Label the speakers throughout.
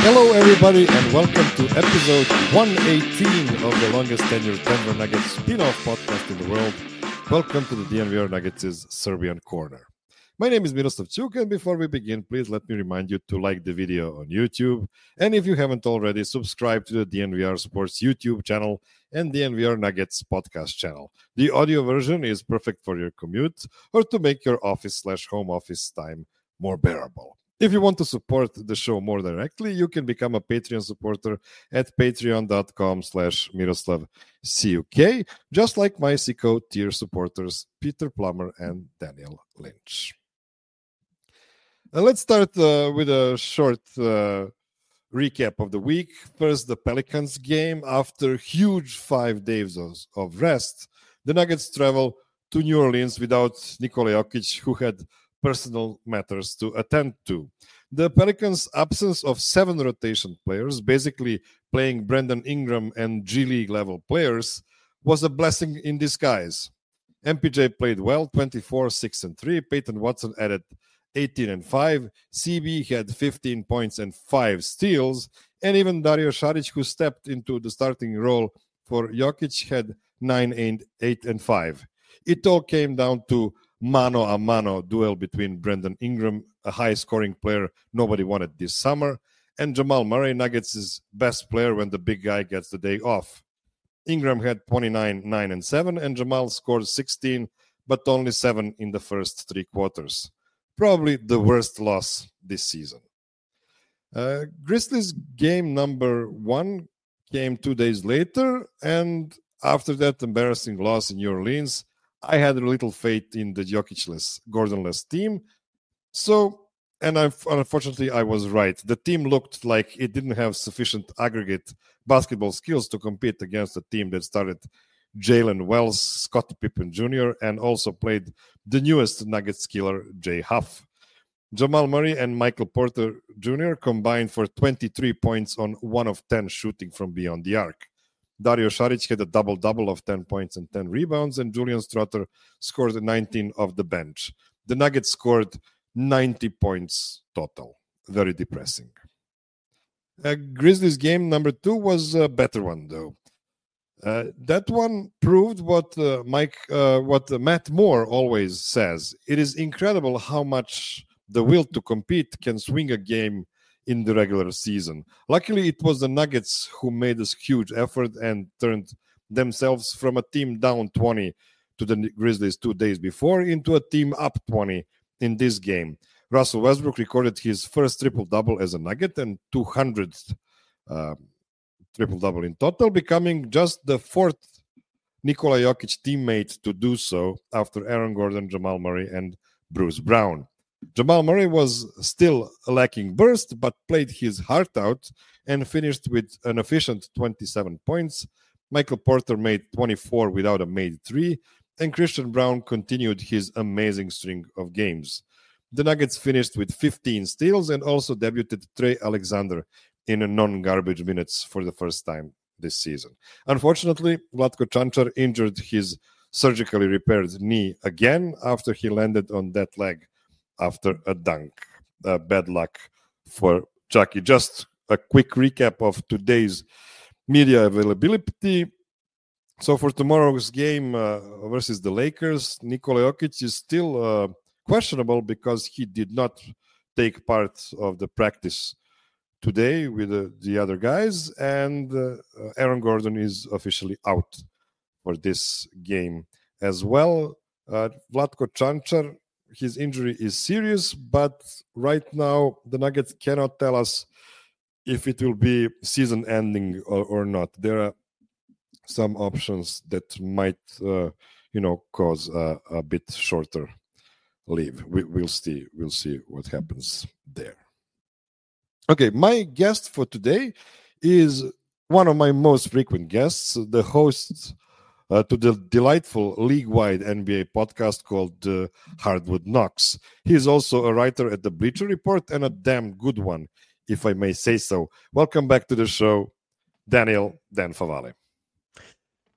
Speaker 1: Hello, everybody, and welcome to episode 118 of the longest tenured Denver Nuggets spin-off podcast in the world. Welcome to the DNVR Nuggets' Serbian Corner. My name is Miroslav Ćuk, and before we begin, please let me remind you to like the video on YouTube. And if you haven't already, subscribe to the DNVR Sports YouTube channel and DNVR Nuggets podcast channel. The audio version is perfect for your commute or to make your office/home office time more bearable. If you want to support the show more directly, you can become a Patreon supporter at patreon.com/MiroslavCuk, just like my Sicko tier supporters, Peter Plummer and Daniel Lynch. Let's start with a short recap of the week. First, the Pelicans game. After huge 5 days of rest, the Nuggets travel to New Orleans without Nikola Jokic, who had personal matters to attend to. The Pelicans' absence of 7 rotation players, basically playing Brandon Ingram and G League level players, was a blessing in disguise. MPJ played well, 24, 6, and 3. Peyton Watson added 18 and 5. CB had 15 points and 5 steals. And even Dario Saric, who stepped into the starting role for Jokic, had 9 and 8 and 5. It all came down to mano a mano duel between Brandon Ingram, a high-scoring player nobody wanted this summer, and Jamal Murray, Nuggets' best player when the big guy gets the day off. Ingram had 29, 9, and 7, and Jamal scored 16, but only 7 in the first 3 quarters. Probably the worst loss this season. Grizzlies game number 1 came 2 days later, and after that embarrassing loss in New Orleans, I had a little faith in the Jokic-less, Gordon-less team. Unfortunately, I was right. The team looked like it didn't have sufficient aggregate basketball skills to compete against a team that started Jalen Wells, Scottie Pippen Jr., and also played the newest Nuggets killer, Jay Huff. Jamal Murray and Michael Porter Jr. combined for 23 points on 1 of 10 shooting from beyond the arc. Dario Saric had a double-double of 10 points and 10 rebounds, and Julian Stroughter scored 19 off the bench. The Nuggets scored 90 points total. Very depressing. Grizzlies game number 2 was a better one, though. That one proved what Matt Moore always says. It is incredible how much the will to compete can swing a game in the regular season. Luckily, it was the Nuggets who made this huge effort and turned themselves from a team down 20 to the Grizzlies 2 days before into a team up 20 in this game. Russell Westbrook recorded his first triple-double as a Nugget and 200th triple-double in total, becoming just the 4th Nikola Jokic teammate to do so after Aaron Gordon, Jamal Murray, and Bruce Brown. Jamal Murray was still lacking burst, but played his heart out and finished with an efficient 27 points. Michael Porter made 24 without a made 3, and Christian Braun continued his amazing string of games. The Nuggets finished with 15 steals and also debuted Trey Alexander in a non-garbage minutes for the first time this season. Unfortunately, Vlatko Čančar injured his surgically repaired knee again after he landed on that leg after a dunk. Bad luck for Chucky. Just a quick recap of today's media availability. So for tomorrow's game versus the Lakers, Nikola Jokic is still questionable because he did not take part of the practice today with the other guys, and Aaron Gordon is officially out for this game as well. Vlatko Čančar, his injury is serious, but right now the Nuggets cannot tell us if it will be season-ending or not. There are some options that might, cause a bit shorter leave. We'll see. We'll see what happens there. Okay, my guest for today is one of my most frequent guests, the host to the delightful league-wide NBA podcast called Hardwood Knocks. He is also a writer at the Bleacher Report and a damn good one, if I may say so. Welcome back to the show, Dan Favale.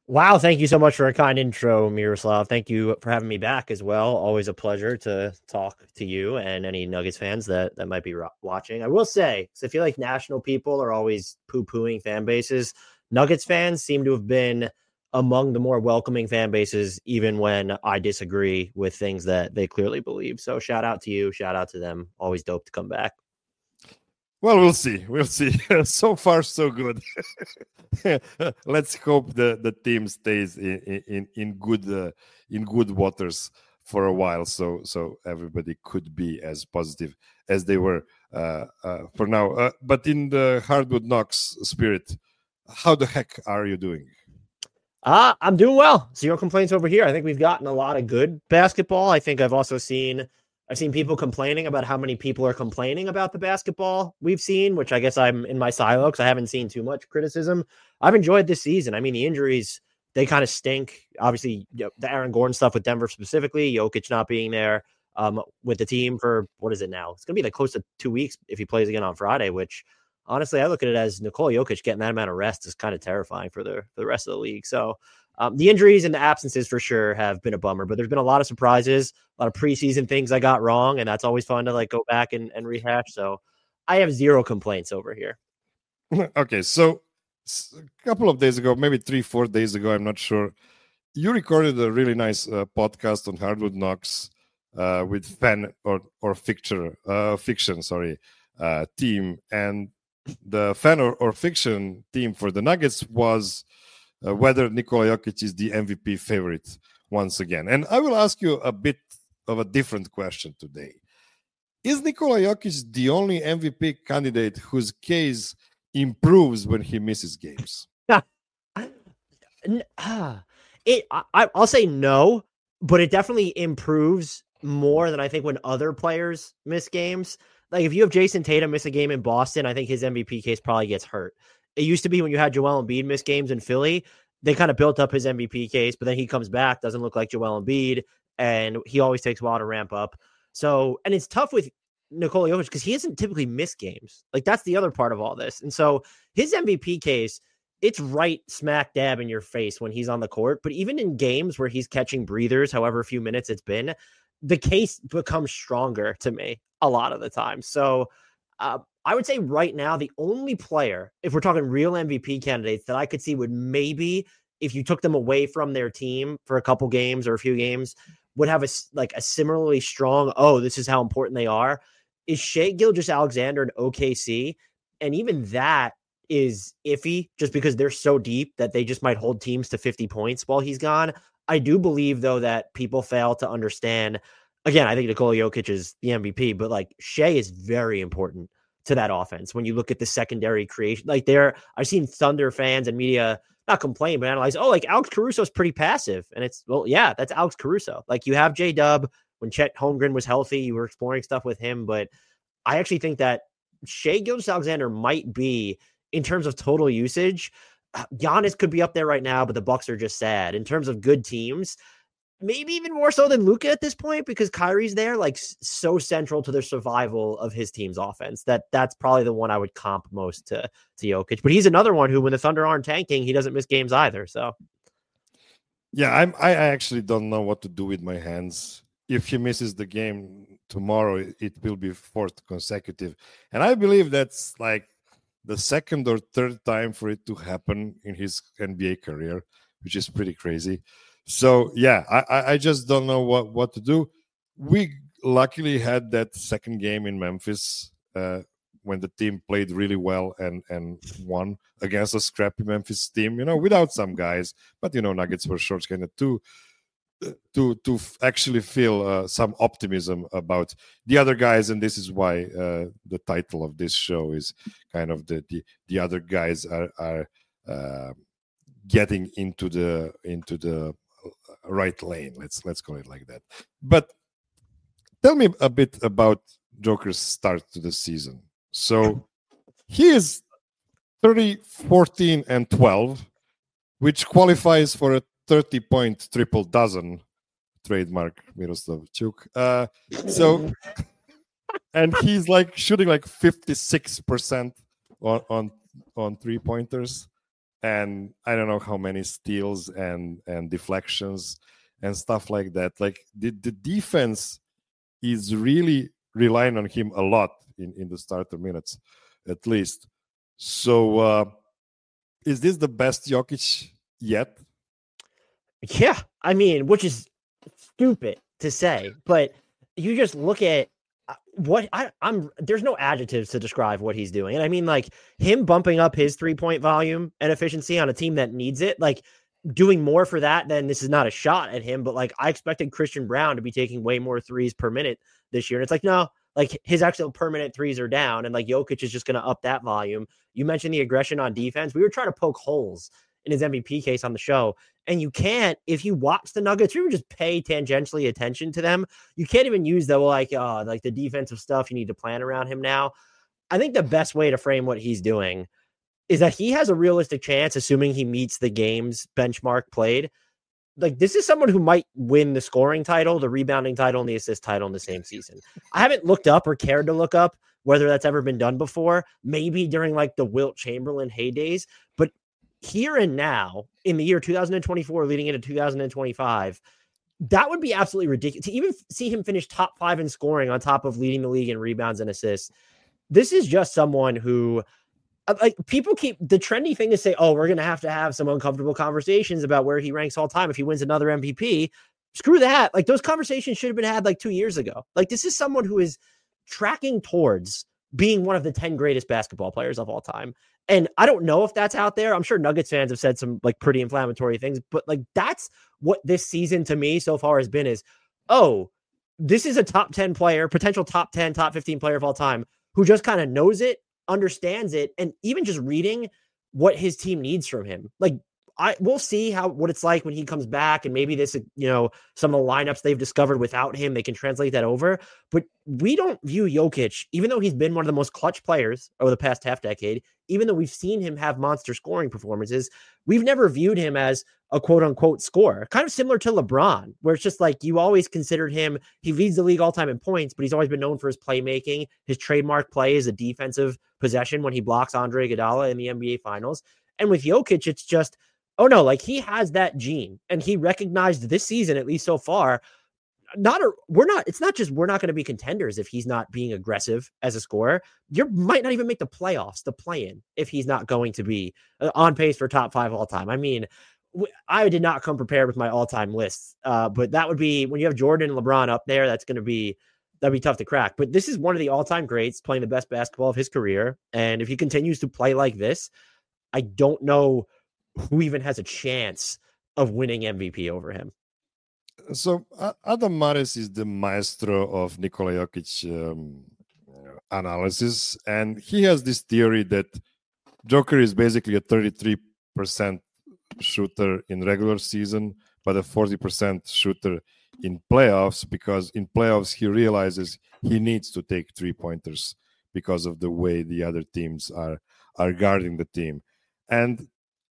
Speaker 2: Wow, thank you so much for a kind intro, Miroslav. Thank you for having me back as well. Always a pleasure to talk to you and any Nuggets fans that might be watching. I will say, because I feel like national people are always poo-pooing fan bases. Nuggets fans seem to have been among the more welcoming fan bases, even when I disagree with things that they clearly believe. So shout out to you, shout out to them. Always dope to come back.
Speaker 1: Well, we'll see. We'll see. So far, so good. Let's hope the team stays in good waters for a while, so everybody could be as positive as they were for now. But in the Hardwood Knocks spirit, how the heck are you doing?
Speaker 2: I'm doing well. Zero complaints over here. I think we've gotten a lot of good basketball. I think I've seen people complaining about how many people are complaining about the basketball we've seen, which I guess I'm in my silo because I haven't seen too much criticism. I've enjoyed this season. I mean, the injuries, they kind of stink. Obviously, the Aaron Gordon stuff with Denver specifically, Jokic not being there with the team for, what is it now? It's going to be like close to 2 weeks if he plays again on Friday, which honestly, I look at it as Nikola Jokic getting that amount of rest is kind of terrifying for the rest of the league. So the injuries and the absences for sure have been a bummer, but there's been a lot of surprises, a lot of preseason things I got wrong, and that's always fun to like go back and rehash. So I have zero complaints over here.
Speaker 1: Okay, so a couple of days ago, maybe 3-4 days ago, I'm not sure, you recorded a really nice podcast on Hardwood Knocks with fan or fiction, team, and the fan or fiction team for the Nuggets was whether Nikola Jokic is the MVP favorite once again. And I will ask you a bit of a different question today. Is Nikola Jokic the only MVP candidate whose case improves when he misses games?
Speaker 2: I'll say no, but it definitely improves more than I think when other players miss games. Like if you have Jason Tatum miss a game in Boston, I think his MVP case probably gets hurt. It used to be when you had Joel Embiid miss games in Philly, they kind of built up his MVP case, but then he comes back, doesn't look like Joel Embiid, and he always takes a while to ramp up. So, and it's tough with Nikola Jokic because he doesn't typically miss games. Like that's the other part of all this. And so his MVP case, it's right smack dab in your face when he's on the court. But even in games where he's catching breathers, however few minutes it's been, the case becomes stronger to me a lot of the time. So I would say right now, the only player, if we're talking real MVP candidates that I could see would maybe, if you took them away from their team for a couple games or a few games, would have a similarly strong, oh, this is how important they are, is Shai Gilgeous-Alexander in OKC. And even that is iffy just because they're so deep that they just might hold teams to 50 points while he's gone. I do believe, though, that people fail to understand. Again, I think Nikola Jokic is the MVP, but like Shai is very important to that offense. When you look at the secondary creation, like I've seen Thunder fans and media not complain, but analyze, oh, like Alex Caruso is pretty passive. And it's, well, yeah, that's Alex Caruso. Like you have J-Dub. When Chet Holmgren was healthy, you were exploring stuff with him. But I actually think that Shai Gilgeous-Alexander might be, in terms of total usage, Giannis could be up there right now, but the Bucks are just sad. In terms of good teams, maybe even more so than Luka at this point, because Kyrie's there, like so central to the survival of his team's offense. That's probably the one I would comp most to Jokic. But he's another one who, when the Thunder aren't tanking, he doesn't miss games either. So,
Speaker 1: yeah, I actually don't know what to do with my hands. If he misses the game tomorrow, it will be fourth consecutive, and I believe that's like the second or third time for it to happen in his NBA career, which is pretty crazy. So yeah, I just don't know what to do. We luckily had that second game in Memphis when the team played really well and won against a scrappy Memphis team, without some guys, but Nuggets were short kind of to actually feel some optimism about the other guys. And this is why the title of this show is kind of the other guys are getting into the right lane. Let's call it like that. But tell me a bit about Joker's start to the season. So he is 30, 14, and 12, which qualifies for a 30-point triple dozen, trademark Miroslav Chuk. And he's like shooting like 56% on 3-pointers. and I don't know how many steals and deflections and stuff like that. Like the defense is really relying on him a lot in the starter minutes, at least. So is this the best Jokic yet?
Speaker 2: Yeah, I mean, which is stupid to say, but you just look at what I'm there's no adjectives to describe what he's doing. And I mean, like him bumping up his 3-point volume and efficiency on a team that needs it, like doing more for that, then this is not a shot at him, but like I expected Christian Braun to be taking way more threes per minute this year. And it's like, no, like his actual permanent threes are down, and like Jokic is just going to up that volume. You mentioned the aggression on defense. We were trying to poke holes in his MVP case on the show, and you can't, if you watch the Nuggets, you just pay tangentially attention to them. You can't even use the like the defensive stuff. You need to plan around him now. I think the best way to frame what he's doing is that he has a realistic chance, assuming he meets the game's benchmark played. Like this is someone who might win the scoring title, the rebounding title, and the assist title in the same season. I haven't looked up or cared to look up whether that's ever been done before, maybe during like the Wilt Chamberlain heydays, but here and now in the year 2024 leading into 2025, that would be absolutely ridiculous to even see him finish top 5 in scoring on top of leading the league in rebounds and assists. This is just someone who, like, people keep the trendy thing to say, oh, we're going to have some uncomfortable conversations about where he ranks all time if he wins another MVP. Screw that. Like those conversations should have been had like 2 years ago. Like this is someone who is tracking towards being one of the 10 greatest basketball players of all time. And I don't know if that's out there. I'm sure Nuggets fans have said some like pretty inflammatory things, but like that's what this season to me so far has been is, oh, this is a top 10 player, potential top 10, top 15 player of all time who just kind of knows it, understands it, and even just reading what his team needs from him. Like we'll see what it's like when he comes back, and maybe this, some of the lineups they've discovered without him, they can translate that over. But we don't view Jokic, even though he's been one of the most clutch players over the past half decade, even though we've seen him have monster scoring performances, we've never viewed him as a quote unquote scorer, kind of similar to LeBron, where it's just like you always considered him, he leads the league all time in points, but he's always been known for his playmaking. His trademark play is a defensive possession when he blocks Andre Iguodala in the NBA finals. And with Jokic, it's just, oh no, like he has that gene, and he recognized this season, at least so far, it's not just we're not going to be contenders if he's not being aggressive as a scorer. You might not even make the playoffs, the play-in, if he's not going to be on pace for top 5 all time. I mean, I did not come prepared with my all-time lists, but that would be when you have Jordan and LeBron up there, that'd be tough to crack. But this is one of the all-time greats playing the best basketball of his career. And if he continues to play like this, I don't know who even has a chance of winning MVP over him.
Speaker 1: So Adam Mares is the maestro of Nikola Jokic analysis, and he has this theory that Joker is basically a 33% shooter in regular season, but a 40% shooter in playoffs, because in playoffs he realizes he needs to take 3-pointers because of the way the other teams are guarding the team. And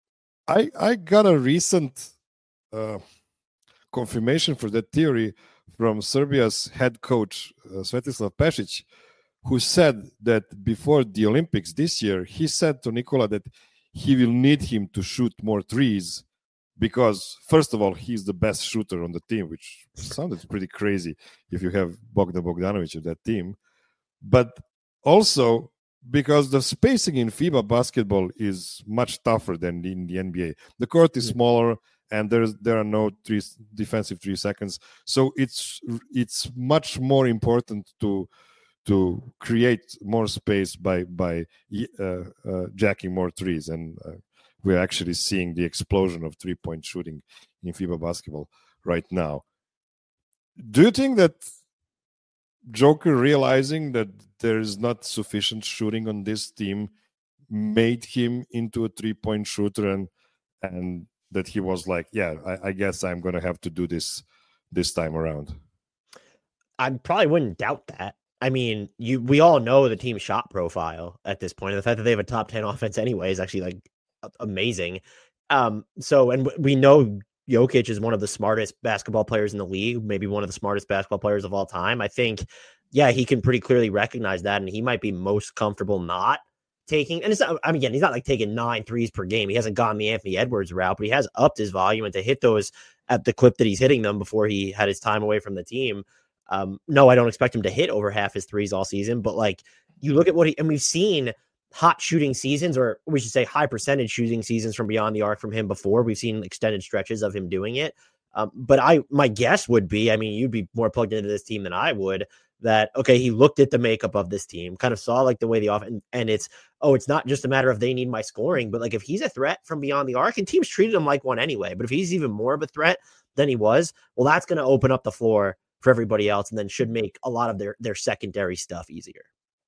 Speaker 1: I got a recent confirmation for that theory from Serbia's head coach, Svetislav Pešić, who said that before the Olympics this year, he said to Nikola that he will need him to shoot more threes because, first of all, he's the best shooter on the team, which sounded pretty crazy if you have Bogdan Bogdanovic of that team. But also because the spacing in FIBA basketball is much tougher than in the NBA. The court is smaller, and there are no defensive 3 seconds. So it's much more important to create more space by jacking more threes. And we're actually seeing the explosion of 3-point shooting in FIBA basketball right now. Do you think that Joker realizing that there is not sufficient shooting on this team made him into a 3-point shooter, and that he was like, yeah, I guess I'm going to have to do this time around?
Speaker 2: I probably wouldn't doubt that. I mean, we all know the team's shot profile at this point. And the fact that they have a top 10 offense anyway is actually like amazing. And we know Jokic is one of the smartest basketball players in the league, maybe one of the smartest basketball players of all time. I think, yeah, he can pretty clearly recognize that, and he might be most comfortable not taking, and it's not, I mean, again, he's not like taking 9 threes per game. He hasn't gone the Anthony Edwards route, but he has upped his volume, and to hit those at the clip that he's hitting them before he had his time away from the team. No, I don't expect him to hit over half his threes all season, but like you look at what and we've seen hot shooting seasons, or we should say high percentage shooting seasons from beyond the arc from him before. We've seen extended stretches of him doing it. But my guess would be, I mean, you'd be more plugged into this team than I would, that, okay, he looked at the makeup of this team, kind of saw like the way the offense, and it's not just a matter of they need my scoring, but like if he's a threat from beyond the arc, and teams treated him like one anyway, but if he's even more of a threat than he was, well, that's going to open up the floor for everybody else, and then should make a lot of their secondary stuff easier.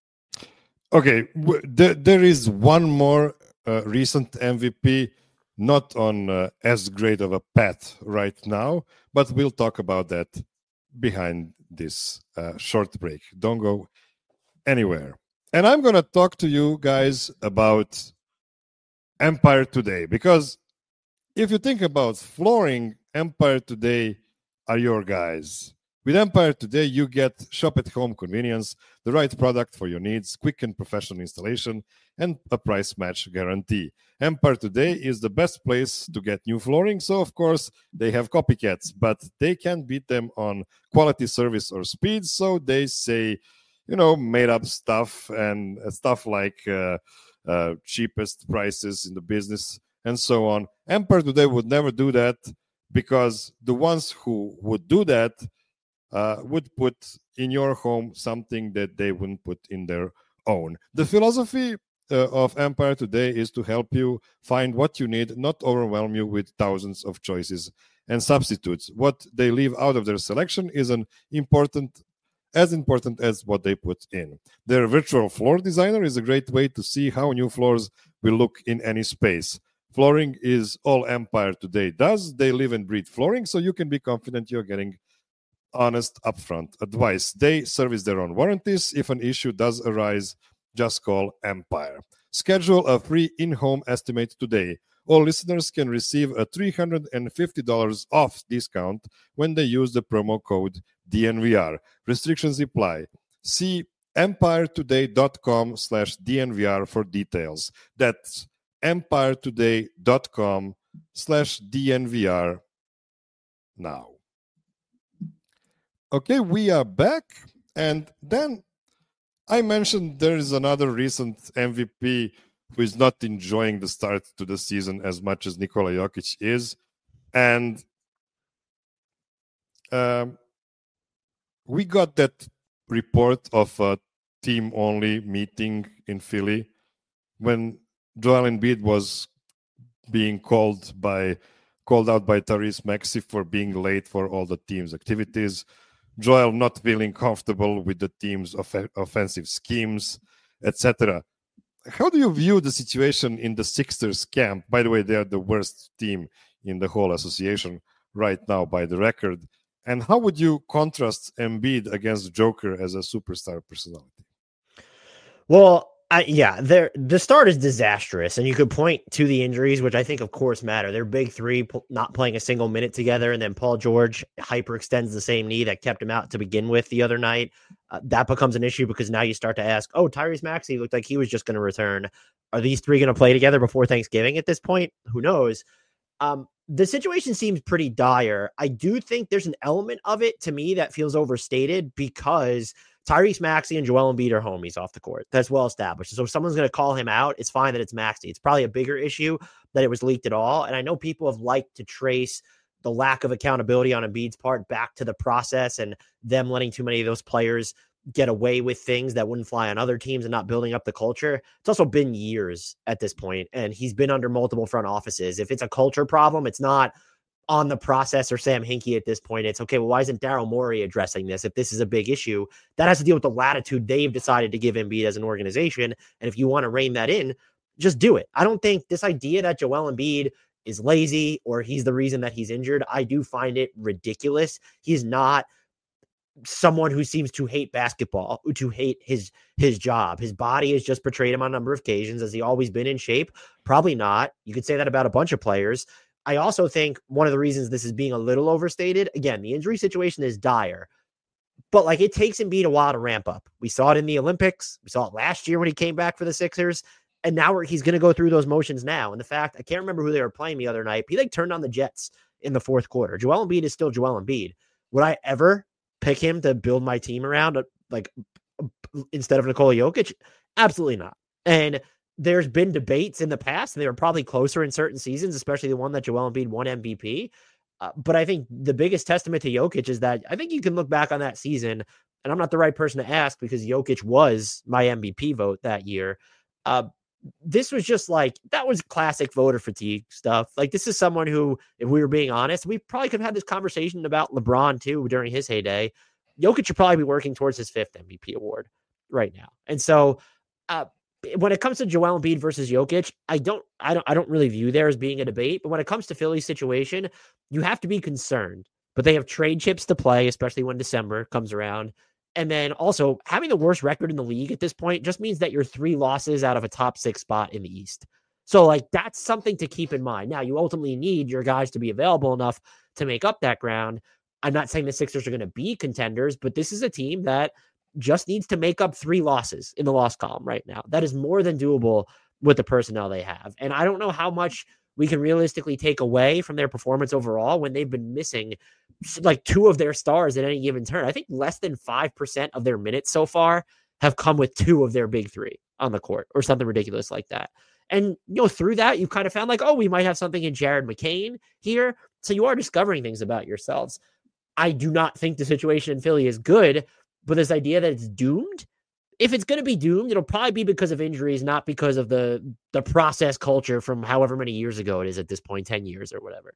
Speaker 1: Okay, there is one more recent MVP, not on as great of a path right now, but we'll talk about that behind this short break. Don't go anywhere. And I'm going to talk to you guys about Empire Today, because if you think about flooring, Empire Today are your guys. With Empire Today, you get shop-at-home convenience, the right product for your needs, quick and professional installation, and a price match guarantee. Empire Today is the best place to get new flooring, so of course they have copycats, but they can't beat them on quality, service, or speed, so they say, made-up stuff and stuff like cheapest prices in the business and so on. Empire Today would never do that, because the ones who would do that would put in your home something that they wouldn't put in their own. The philosophy of Empire Today is to help you find what you need, not overwhelm you with thousands of choices and substitutes. What they leave out of their selection is as important as what they put in. Their virtual floor designer is a great way to see how new floors will look in any space. Flooring is all Empire Today does. They live and breathe flooring, so you can be confident you're getting honest, upfront advice. They service their own warranties. If an issue does arise, just call Empire. Schedule a free in-home estimate today. All listeners can receive a $350 off discount when they use the promo code DNVR. Restrictions apply. See empiretoday.com/DNVR for details. That's empiretoday.com/DNVR now. Okay, we are back. And then I mentioned there is another recent MVP who is not enjoying the start to the season as much as Nikola Jokic is. And we got that report of a team-only meeting in Philly when Joel Embiid was being called out by Tyrese Maxey for being late for all the team's activities. Joel not feeling comfortable with the team's offensive schemes, etc. How do you view the situation in the Sixers camp? By the way, they are the worst team in the whole association right now by the record. And how would you contrast Embiid against Joker as a superstar personality?
Speaker 2: Well, the start is disastrous, and you could point to the injuries, which I think, of course, matter. Their big three not playing a single minute together, and then Paul George hyperextends the same knee that kept him out to begin with the other night. That becomes an issue because now you start to ask, Tyrese Maxey looked like he was just going to return. Are these three going to play together before Thanksgiving at this point? Who knows? The situation seems pretty dire. I do think there's an element of it to me that feels overstated because Tyrese Maxey and Joel Embiid are homies off the court. That's well established. So if someone's going to call him out, it's fine that it's Maxey. It's probably a bigger issue that it was leaked at all. And I know people have liked to trace the lack of accountability on Embiid's part back to the process and them letting too many of those players get away with things that wouldn't fly on other teams and not building up the culture. It's also been years at this point, and he's been under multiple front offices. If it's a culture problem, it's not on the process or Sam Hinkie at this point. It's okay, well, why isn't Daryl Morey addressing this? If this is a big issue, that has to deal with the latitude they've decided to give Embiid as an organization. And if you want to rein that in, just do it. I don't think this idea that Joel Embiid is lazy or he's the reason that he's injured, I do find it ridiculous. He's not someone who seems to hate basketball, to hate his job. His body has just portrayed him on a number of occasions. Has he always been in shape? Probably not. You could say that about a bunch of players. I also think one of the reasons this is being a little overstated, again, the injury situation is dire, but it takes Embiid a while to ramp up. We saw it in the Olympics. We saw it last year when he came back for the Sixers. And now he's going to go through those motions now. And the fact, I can't remember who they were playing the other night. He like turned on the Jets in the fourth quarter. Joel Embiid is still Joel Embiid. Would I ever pick him to build my team around, like, instead of Nikola Jokic? Absolutely not. And there's been debates in the past, and they were probably closer in certain seasons, especially the one that Joel Embiid won MVP. But I think the biggest testament to Jokic is that I think you can look back on that season, and I'm not the right person to ask because Jokic was my MVP vote that year. This was just like, that was classic voter fatigue stuff. Like, this is someone who, if we were being honest, we probably could have had this conversation about LeBron too during his heyday. Jokic should probably be working towards his 5th MVP award right now. And so when it comes to Joel Embiid versus Jokic, I don't really view there as being a debate. But when it comes to Philly's situation, you have to be concerned. But they have trade chips to play, especially when December comes around. And then also having the worst record in the league at this point just means that you're 3 losses out of a top 6 spot in the East. So like, that's something to keep in mind. Now, you ultimately need your guys to be available enough to make up that ground. I'm not saying the Sixers are going to be contenders, but this is a team that just needs to make up 3 losses in the loss column right now. That is more than doable with the personnel they have. And I don't know how much we can realistically take away from their performance overall when they've been missing like 2 of their stars at any given turn. I think less than 5% of their minutes so far have come with 2 of their big 3 on the court or something ridiculous like that. And, through that, you kind of found like, oh, we might have something in Jared McCain here. So you are discovering things about yourselves. I do not think the situation in Philly is good, but this idea that it's doomed, if it's going to be doomed, it'll probably be because of injuries, not because of the process culture from however many years ago it is at this point, 10 years or whatever.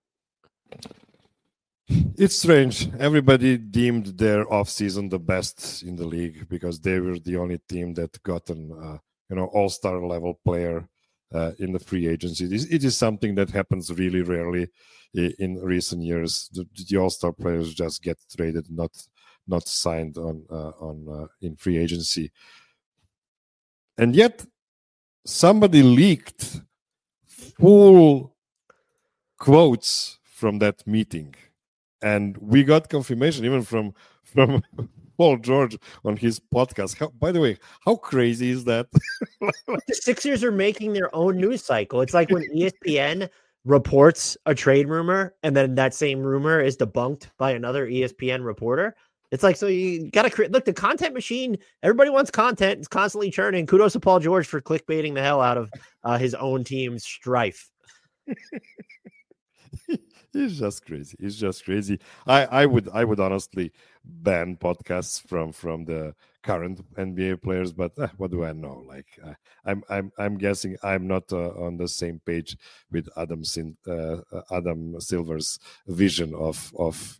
Speaker 1: It's strange. Everybody deemed their offseason the best in the league because they were the only team that got an all-star level player in the free agency. It is something that happens really rarely in recent years. The all-star players just get traded, not signed on in free agency. And yet somebody leaked full quotes from that meeting. And we got confirmation even from Paul George on his podcast. By the way, how crazy is that?
Speaker 2: The Sixers are making their own news cycle. It's like when ESPN reports a trade rumor and then that same rumor is debunked by another ESPN reporter. It's like, so you got to create, look, the content machine, everybody wants content. It's constantly churning. Kudos to Paul George for clickbaiting the hell out of his own team's strife.
Speaker 1: It's just crazy. It's just crazy. I would honestly ban podcasts from the current NBA players, but what do I know? Like I'm guessing I'm not on the same page with Adam Silver's vision of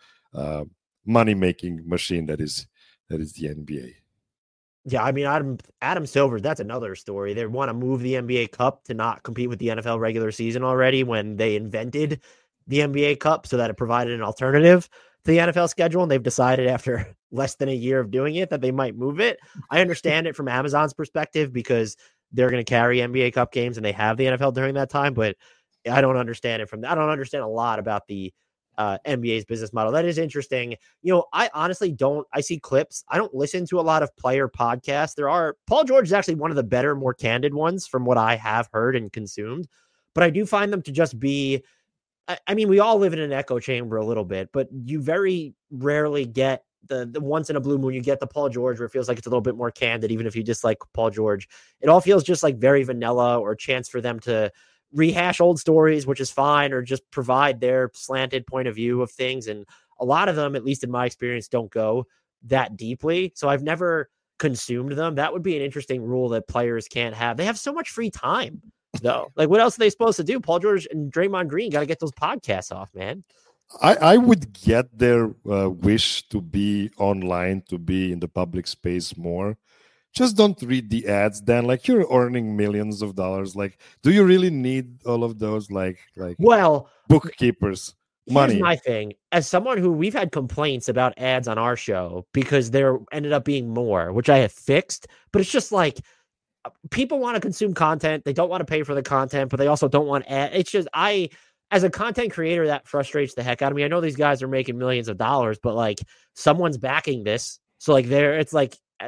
Speaker 1: money making machine that is the NBA.
Speaker 2: Yeah, I mean, Adam Silver, that's another story. They want to move the NBA Cup to not compete with the NFL regular season already when they invented the NBA Cup so that it provided an alternative to the NFL schedule. And they've decided after less than a year of doing it that they might move it. I understand it from Amazon's perspective because they're going to carry NBA Cup games and they have the NFL during that time. But I don't understand it I don't understand a lot about the NBA's business model. That is interesting. I honestly I see clips. I don't listen to a lot of player podcasts. Paul George is actually one of the better, more candid ones from what I have heard and consumed, but I do find them to just be, I mean, we all live in an echo chamber a little bit, but you very rarely get the once in a blue moon, you get the Paul George where it feels like it's a little bit more candid, even if you dislike Paul George. It all feels just like very vanilla or a chance for them to rehash old stories, which is fine, or just provide their slanted point of view of things. And a lot of them, at least in my experience, don't go that deeply. So I've never consumed them. That would be an interesting rule that players can't have. They have so much free time, though. Like, what else are they supposed to do? Paul George and Draymond Green got to get those podcasts off, man.
Speaker 1: I would get their wish to be online, to be in the public space more. Just don't read the ads, Dan. Like, you're earning millions of dollars. Like, do you really need all of those? Like bookkeepers, money.
Speaker 2: Here's my thing. As someone who we've had complaints about ads on our show because there ended up being more, which I have fixed. But it's just like people want to consume content. They don't want to pay for the content, but they also don't want ads. It's just as a content creator, that frustrates the heck out of me. I know these guys are making millions of dollars, but like someone's backing this. So like it's like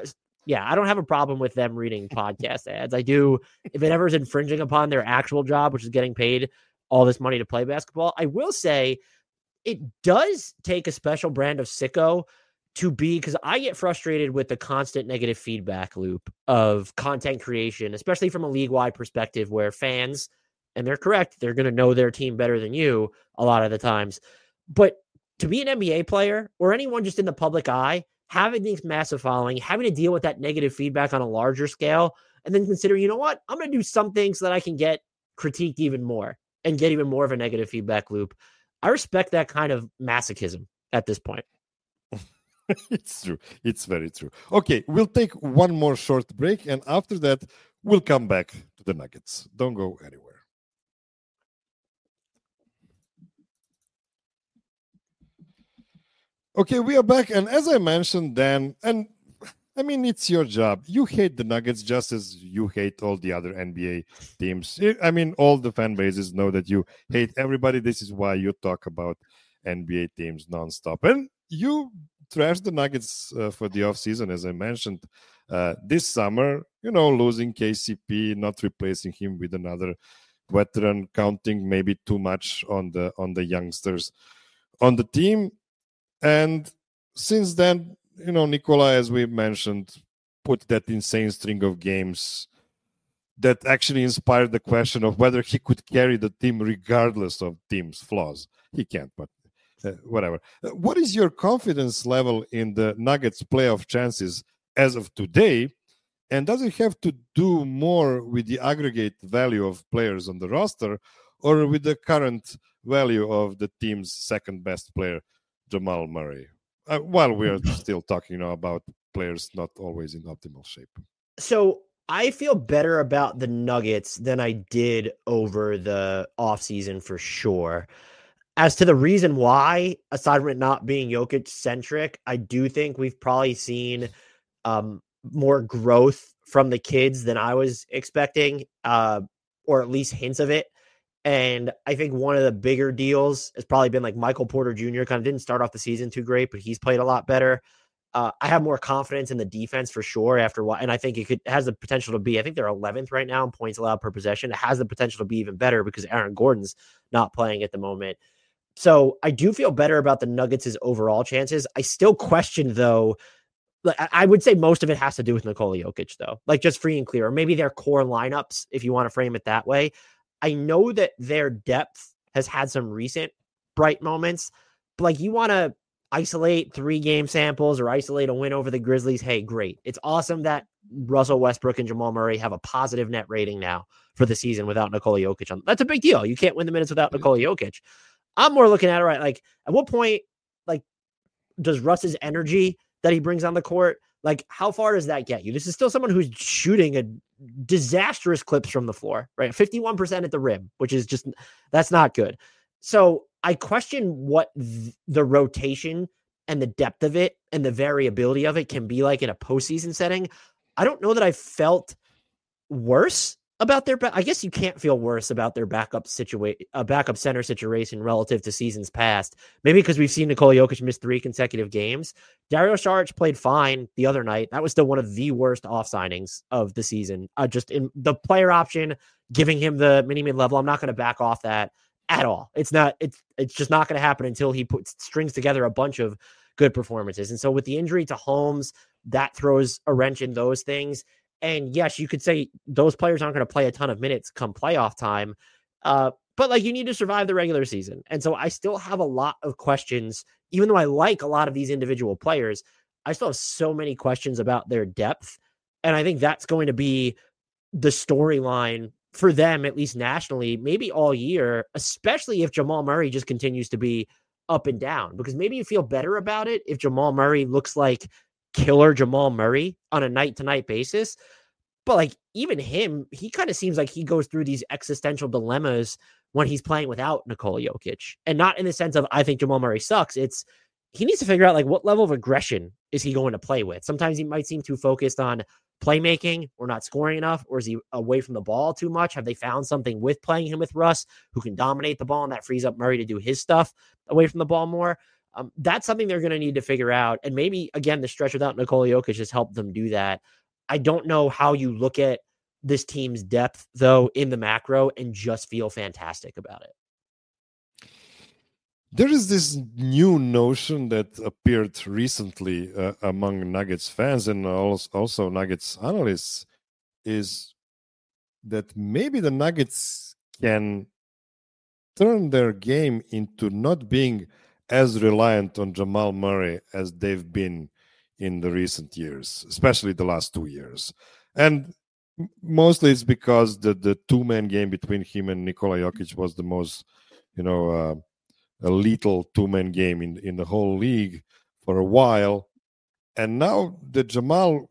Speaker 2: Yeah, I don't have a problem with them reading podcast ads. I do, if it ever is infringing upon their actual job, which is getting paid all this money to play basketball. I will say it does take a special brand of sicko to be, because I get frustrated with the constant negative feedback loop of content creation, especially from a league-wide perspective where fans, and they're correct, they're going to know their team better than you a lot of the times. But to be an NBA player or anyone just in the public eye, having this massive following, having to deal with that negative feedback on a larger scale, and then consider, you know what, I'm going to do something so that I can get critiqued even more and get even more of a negative feedback loop. I respect that kind of masochism at this point.
Speaker 1: It's true. It's very true. Okay, we'll take one more short break, and after that, we'll come back to the Nuggets. Don't go anywhere. Okay, we are back, and as I mentioned, Dan, and I mean, it's your job. You hate the Nuggets just as you hate all the other NBA teams. I mean, all the fan bases know that you hate everybody. This is why you talk about NBA teams nonstop. And you trashed the Nuggets for the offseason, as I mentioned, this summer, losing KCP, not replacing him with another veteran, counting maybe too much on the youngsters on the team. And since then, Nikola, as we mentioned, put that insane string of games that actually inspired the question of whether he could carry the team regardless of team's flaws. He can't, but whatever. What is your confidence level in the Nuggets playoff chances as of today? And does it have to do more with the aggregate value of players on the roster or with the current value of the team's second best player, Jamal Murray? While we are still talking about players not always in optimal shape.
Speaker 2: So I feel better about the Nuggets than I did over the offseason for sure. As to the reason why, aside from it not being Jokic-centric, I do think we've probably seen more growth from the kids than I was expecting, or at least hints of it. And I think one of the bigger deals has probably been like Michael Porter Jr. kind of didn't start off the season too great, but he's played a lot better. I have more confidence in the defense for sure after what, and I think it has the potential to be, I think they're 11th right now in points allowed per possession. It has the potential to be even better because Aaron Gordon's not playing at the moment. So I do feel better about the Nuggets' overall chances. I still question, though, I would say most of it has to do with Nikola Jokic, though, like just free and clear, or maybe their core lineups, if you want to frame it that way. I know that their depth has had some recent bright moments, but like you want to isolate 3-game samples or isolate a win over the Grizzlies. Hey, great. It's awesome that Russell Westbrook and Jamal Murray have a positive net rating now for the season without Nikola Jokic. That's a big deal. You can't win the minutes without Nikola Jokic. I'm more looking at it, right? Like at what point, like does Russ's energy that he brings on the court, like how far does that get you? This is still someone who's shooting a disastrous clips from the floor, right? 51% at the rim, which is just, that's not good. So I question what the rotation and the depth of it and the variability of it can be like in a postseason setting. I don't know that I felt worse about their, I guess you can't feel worse about their backup center situation relative to seasons past. Maybe because we've seen Nikola Jokic miss 3 consecutive games. Dario Saric played fine the other night. That was still one of the worst off signings of the season. Just in the player option, giving him the mid level. I'm not going to back off that at all. It's just not going to happen until he strings together a bunch of good performances. And so with the injury to Holmes, that throws a wrench in those things. And yes, you could say those players aren't going to play a ton of minutes come playoff time. But like you need to survive the regular season. And so I still have a lot of questions, even though I like a lot of these individual players, I still have so many questions about their depth. And I think that's going to be the storyline for them, at least nationally, maybe all year, especially if Jamal Murray just continues to be up and down, because maybe you feel better about it if Jamal Murray looks like killer Jamal Murray on a night-to-night basis. But like even him, he kind of seems like he goes through these existential dilemmas when he's playing without Nikola Jokic. And not in the sense of, I think Jamal Murray sucks. It's, he needs to figure out like what level of aggression is he going to play with. Sometimes he might seem too focused on playmaking or not scoring enough, or is he away from the ball too much? Have they found something with playing him with Russ who can dominate the ball and that frees up Murray to do his stuff away from the ball more? That's something they're going to need to figure out. And maybe, again, the stretch without Nikola Jokic has helped them do that. I don't know how you look at this team's depth, though, in the macro and just feel fantastic about it.
Speaker 1: There is this new notion that appeared recently among Nuggets fans and also Nuggets analysts is that maybe the Nuggets can turn their game into not being as reliant on Jamal Murray as they've been in the recent years, especially the last 2 years. And mostly it's because the two-man game between him and Nikola Jokic was the most, a lethal two-man game in the whole league for a while. And now that Jamal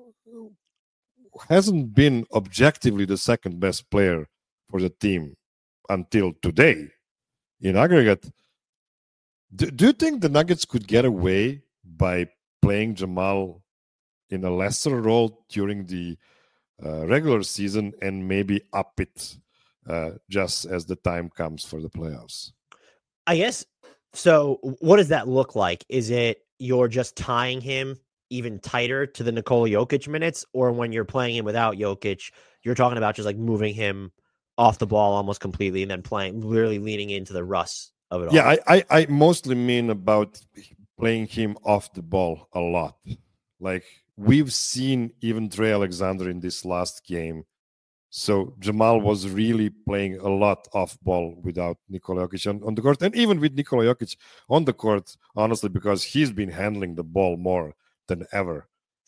Speaker 1: hasn't been objectively the second best player for the team until today in aggregate, do you think the Nuggets could get away by playing Jamal in a lesser role during the regular season and maybe up it just as the time comes for the playoffs?
Speaker 2: I guess, so what does that look like? Is it you're just tying him even tighter to the Nikola Jokic minutes, or when you're playing him without Jokic, you're talking about just like moving him off the ball almost completely and then really leaning into the Russ of it all?
Speaker 1: Yeah, I mostly mean about playing him off the ball a lot. Like we've seen even Trey Alexander in this last game. So Jamal was really playing a lot off ball without Nikola Jokic on the court, and even with Nikola Jokic on the court, honestly, because he's been handling the ball more than ever,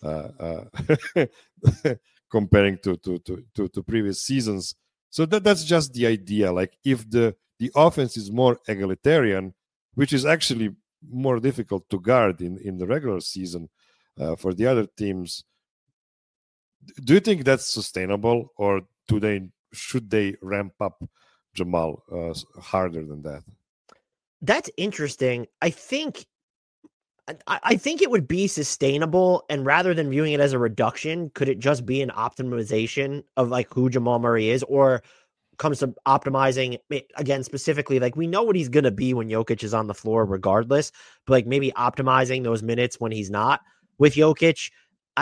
Speaker 1: comparing to previous seasons. So that's just the idea. Like if the offense is more egalitarian, which is actually more difficult to guard in the regular season for the other teams. Do you think that's sustainable, or should they ramp up Jamal harder than that?
Speaker 2: That's interesting. I think it would be sustainable, and rather than viewing it as a reduction, could it just be an optimization of like who Jamal Murray is, or comes to optimizing again specifically, like we know what he's going to be when Jokic is on the floor regardless, but like maybe optimizing those minutes when he's not with Jokic.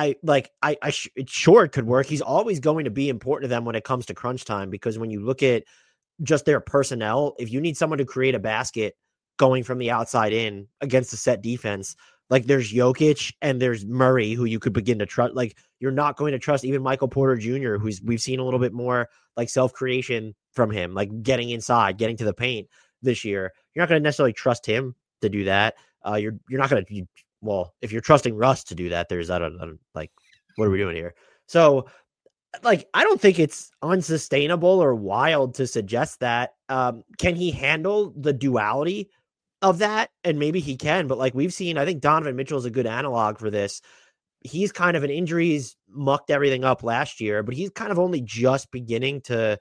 Speaker 2: It could work. He's always going to be important to them when it comes to crunch time, because when you look at just their personnel, if you need someone to create a basket going from the outside in against a set defense, like there's Jokic and there's Murray, who you could begin to trust. Like you're not going to trust even Michael Porter Jr., who's we've seen a little bit more like self-creation from him, like getting inside, getting to the paint this year. You're not going to necessarily trust him to do that. You're not going to. Well, if you're trusting Russ to do that, there's I don't like, what are we doing here? So, like, I don't think it's unsustainable or wild to suggest that. Can he handle the duality of that? And maybe he can, but like we've seen, I think Donovan Mitchell is a good analog for this. He's kind of an injuries mucked everything up last year, but he's kind of only just beginning to,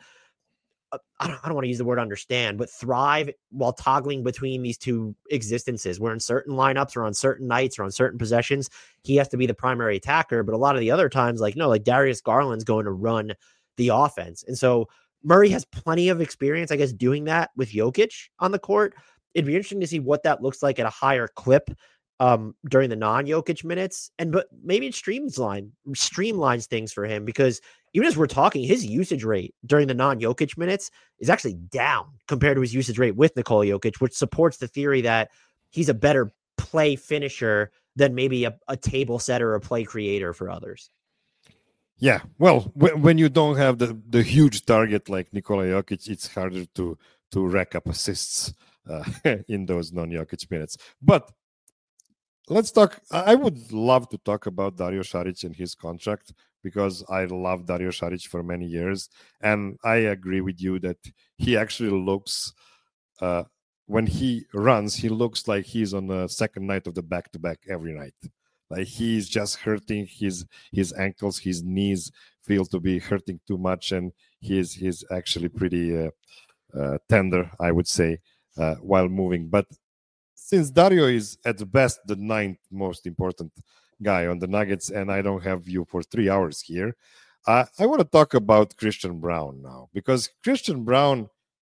Speaker 2: I don't want to use the word understand, but thrive while toggling between these two existences, where in certain lineups or on certain nights or on certain possessions, he has to be the primary attacker. But a lot of the other times, like Darius Garland's going to run the offense. And so Murray has plenty of experience, I guess, doing that with Jokic on the court. It'd be interesting to see what that looks like at a higher clip during the non-Jokic minutes. But maybe it streamlines things for him, because even as we're talking, his usage rate during the non-Jokic minutes is actually down compared to his usage rate with Nikola Jokic, which supports the theory that he's a better play finisher than maybe a table setter or a play creator for others.
Speaker 1: Yeah, well, when you don't have the huge target like Nikola Jokic, it's harder to rack up assists in those non-Jokic minutes. But let's talk. I would love to talk about Dario Saric and his contract, because I love Dario Saric for many years. And I agree with you that he actually looks, when he runs, he looks like he's on the second night of the back-to-back every night. Like he's just hurting his ankles, his knees feel to be hurting too much. And he's actually pretty tender, I would say, while moving. But since Dario is at the best the ninth most important guy on the Nuggets, and I don't have you for 3 hours here, I want to talk about Christian Braun now, because Christian Braun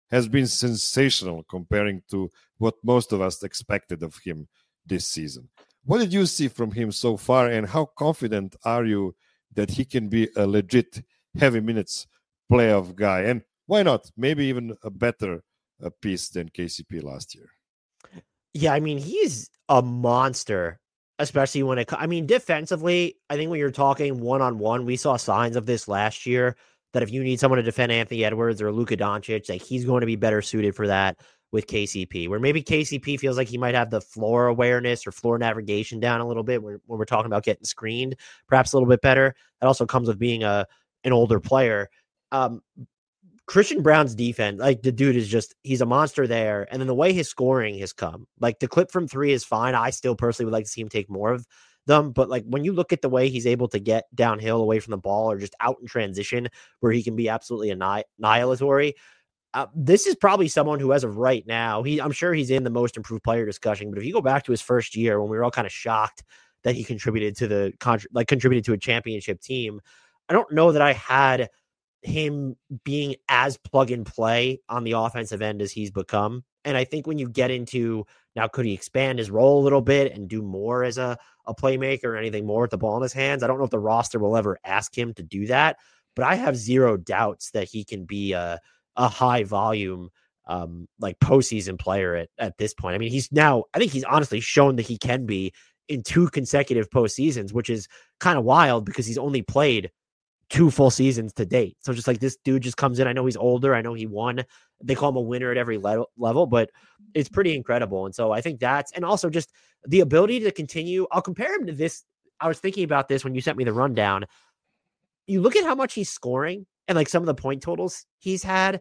Speaker 1: has been sensational comparing to what most of us expected of him this season. What did you see from him so far, and how confident are you that he can be a legit heavy minutes playoff guy? And why not? Maybe even a better piece than KCP last year.
Speaker 2: Yeah, I mean, he's a monster, especially when defensively, I think when you're talking one-on-one, we saw signs of this last year, that if you need someone to defend Anthony Edwards or Luka Doncic, like he's going to be better suited for that with KCP, where maybe KCP feels like he might have the floor awareness or floor navigation down a little bit when we're talking about getting screened, perhaps a little bit better. That also comes with being an older player. Christian Braun's defense, like the dude is just, he's a monster there. And then the way his scoring has come, like the clip from three is fine. I still personally would like to see him take more of them. But like when you look at the way he's able to get downhill away from the ball or just out in transition where he can be absolutely annihilatory, this is probably someone who, as of right now, I'm sure he's in the most improved player discussion. But if you go back to his first year when we were all kind of shocked that he contributed to contributed to a championship team, I don't know that I had him being as plug and play on the offensive end as he's become. And I think when you get into now, could he expand his role a little bit and do more as a playmaker or anything more with the ball in his hands? I don't know if the roster will ever ask him to do that, but I have zero doubts that he can be a high volume, like postseason player at this point. I mean, I think he's honestly shown that he can be in 2 consecutive postseasons, which is kind of wild because he's only played 2 full seasons to date. So just like this dude just comes in. I know he's older. I know he won. They call him a winner at every level, but it's pretty incredible. And so I think and also just the ability to continue. I'll compare him to this. I was thinking about this when you sent me the rundown. You look at how much he's scoring and like some of the point totals he's had.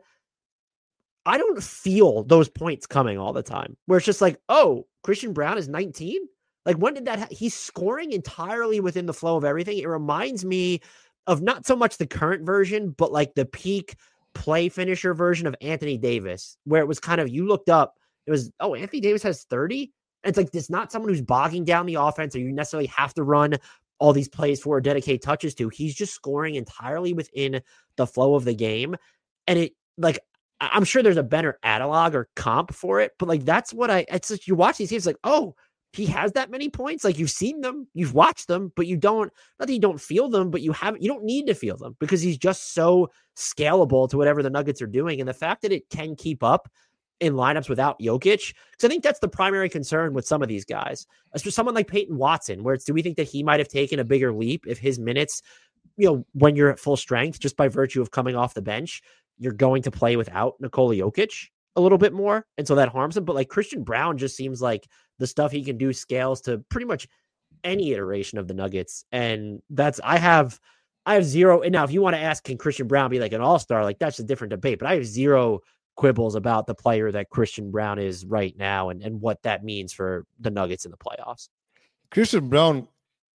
Speaker 2: I don't feel those points coming all the time where it's just like, oh, Christian Braun is 19. Like when did that he's scoring entirely within the flow of everything. It reminds me of not so much the current version, but like the peak play finisher version of Anthony Davis, where it was kind of, you looked up, it was, oh, Anthony Davis has 30. And it's like, it's not someone who's bogging down the offense or you necessarily have to run all these plays for or dedicate touches to. He's just scoring entirely within the flow of the game. And it like, I'm sure there's a better analog or comp for it, but like, that's what it's like, you watch these games like, oh, he has that many points. Like you've seen them, you've watched them, but you don't, not that you don't feel them, but you don't need to feel them because he's just so scalable to whatever the Nuggets are doing. And the fact that it can keep up in lineups without Jokic, because I think that's the primary concern with some of these guys, especially someone like Peyton Watson, where do we think that he might have taken a bigger leap if his minutes, when you're at full strength, just by virtue of coming off the bench, you're going to play without Nikola Jokic a little bit more. And so that harms him. But like Christian Braun just seems like the stuff he can do scales to pretty much any iteration of the Nuggets. And I have zero. And now if you want to ask, can Christian Braun be like an all-star? Like that's a different debate, but I have zero quibbles about the player that Christian Braun is right now and what that means for the Nuggets in the playoffs.
Speaker 1: Christian Braun,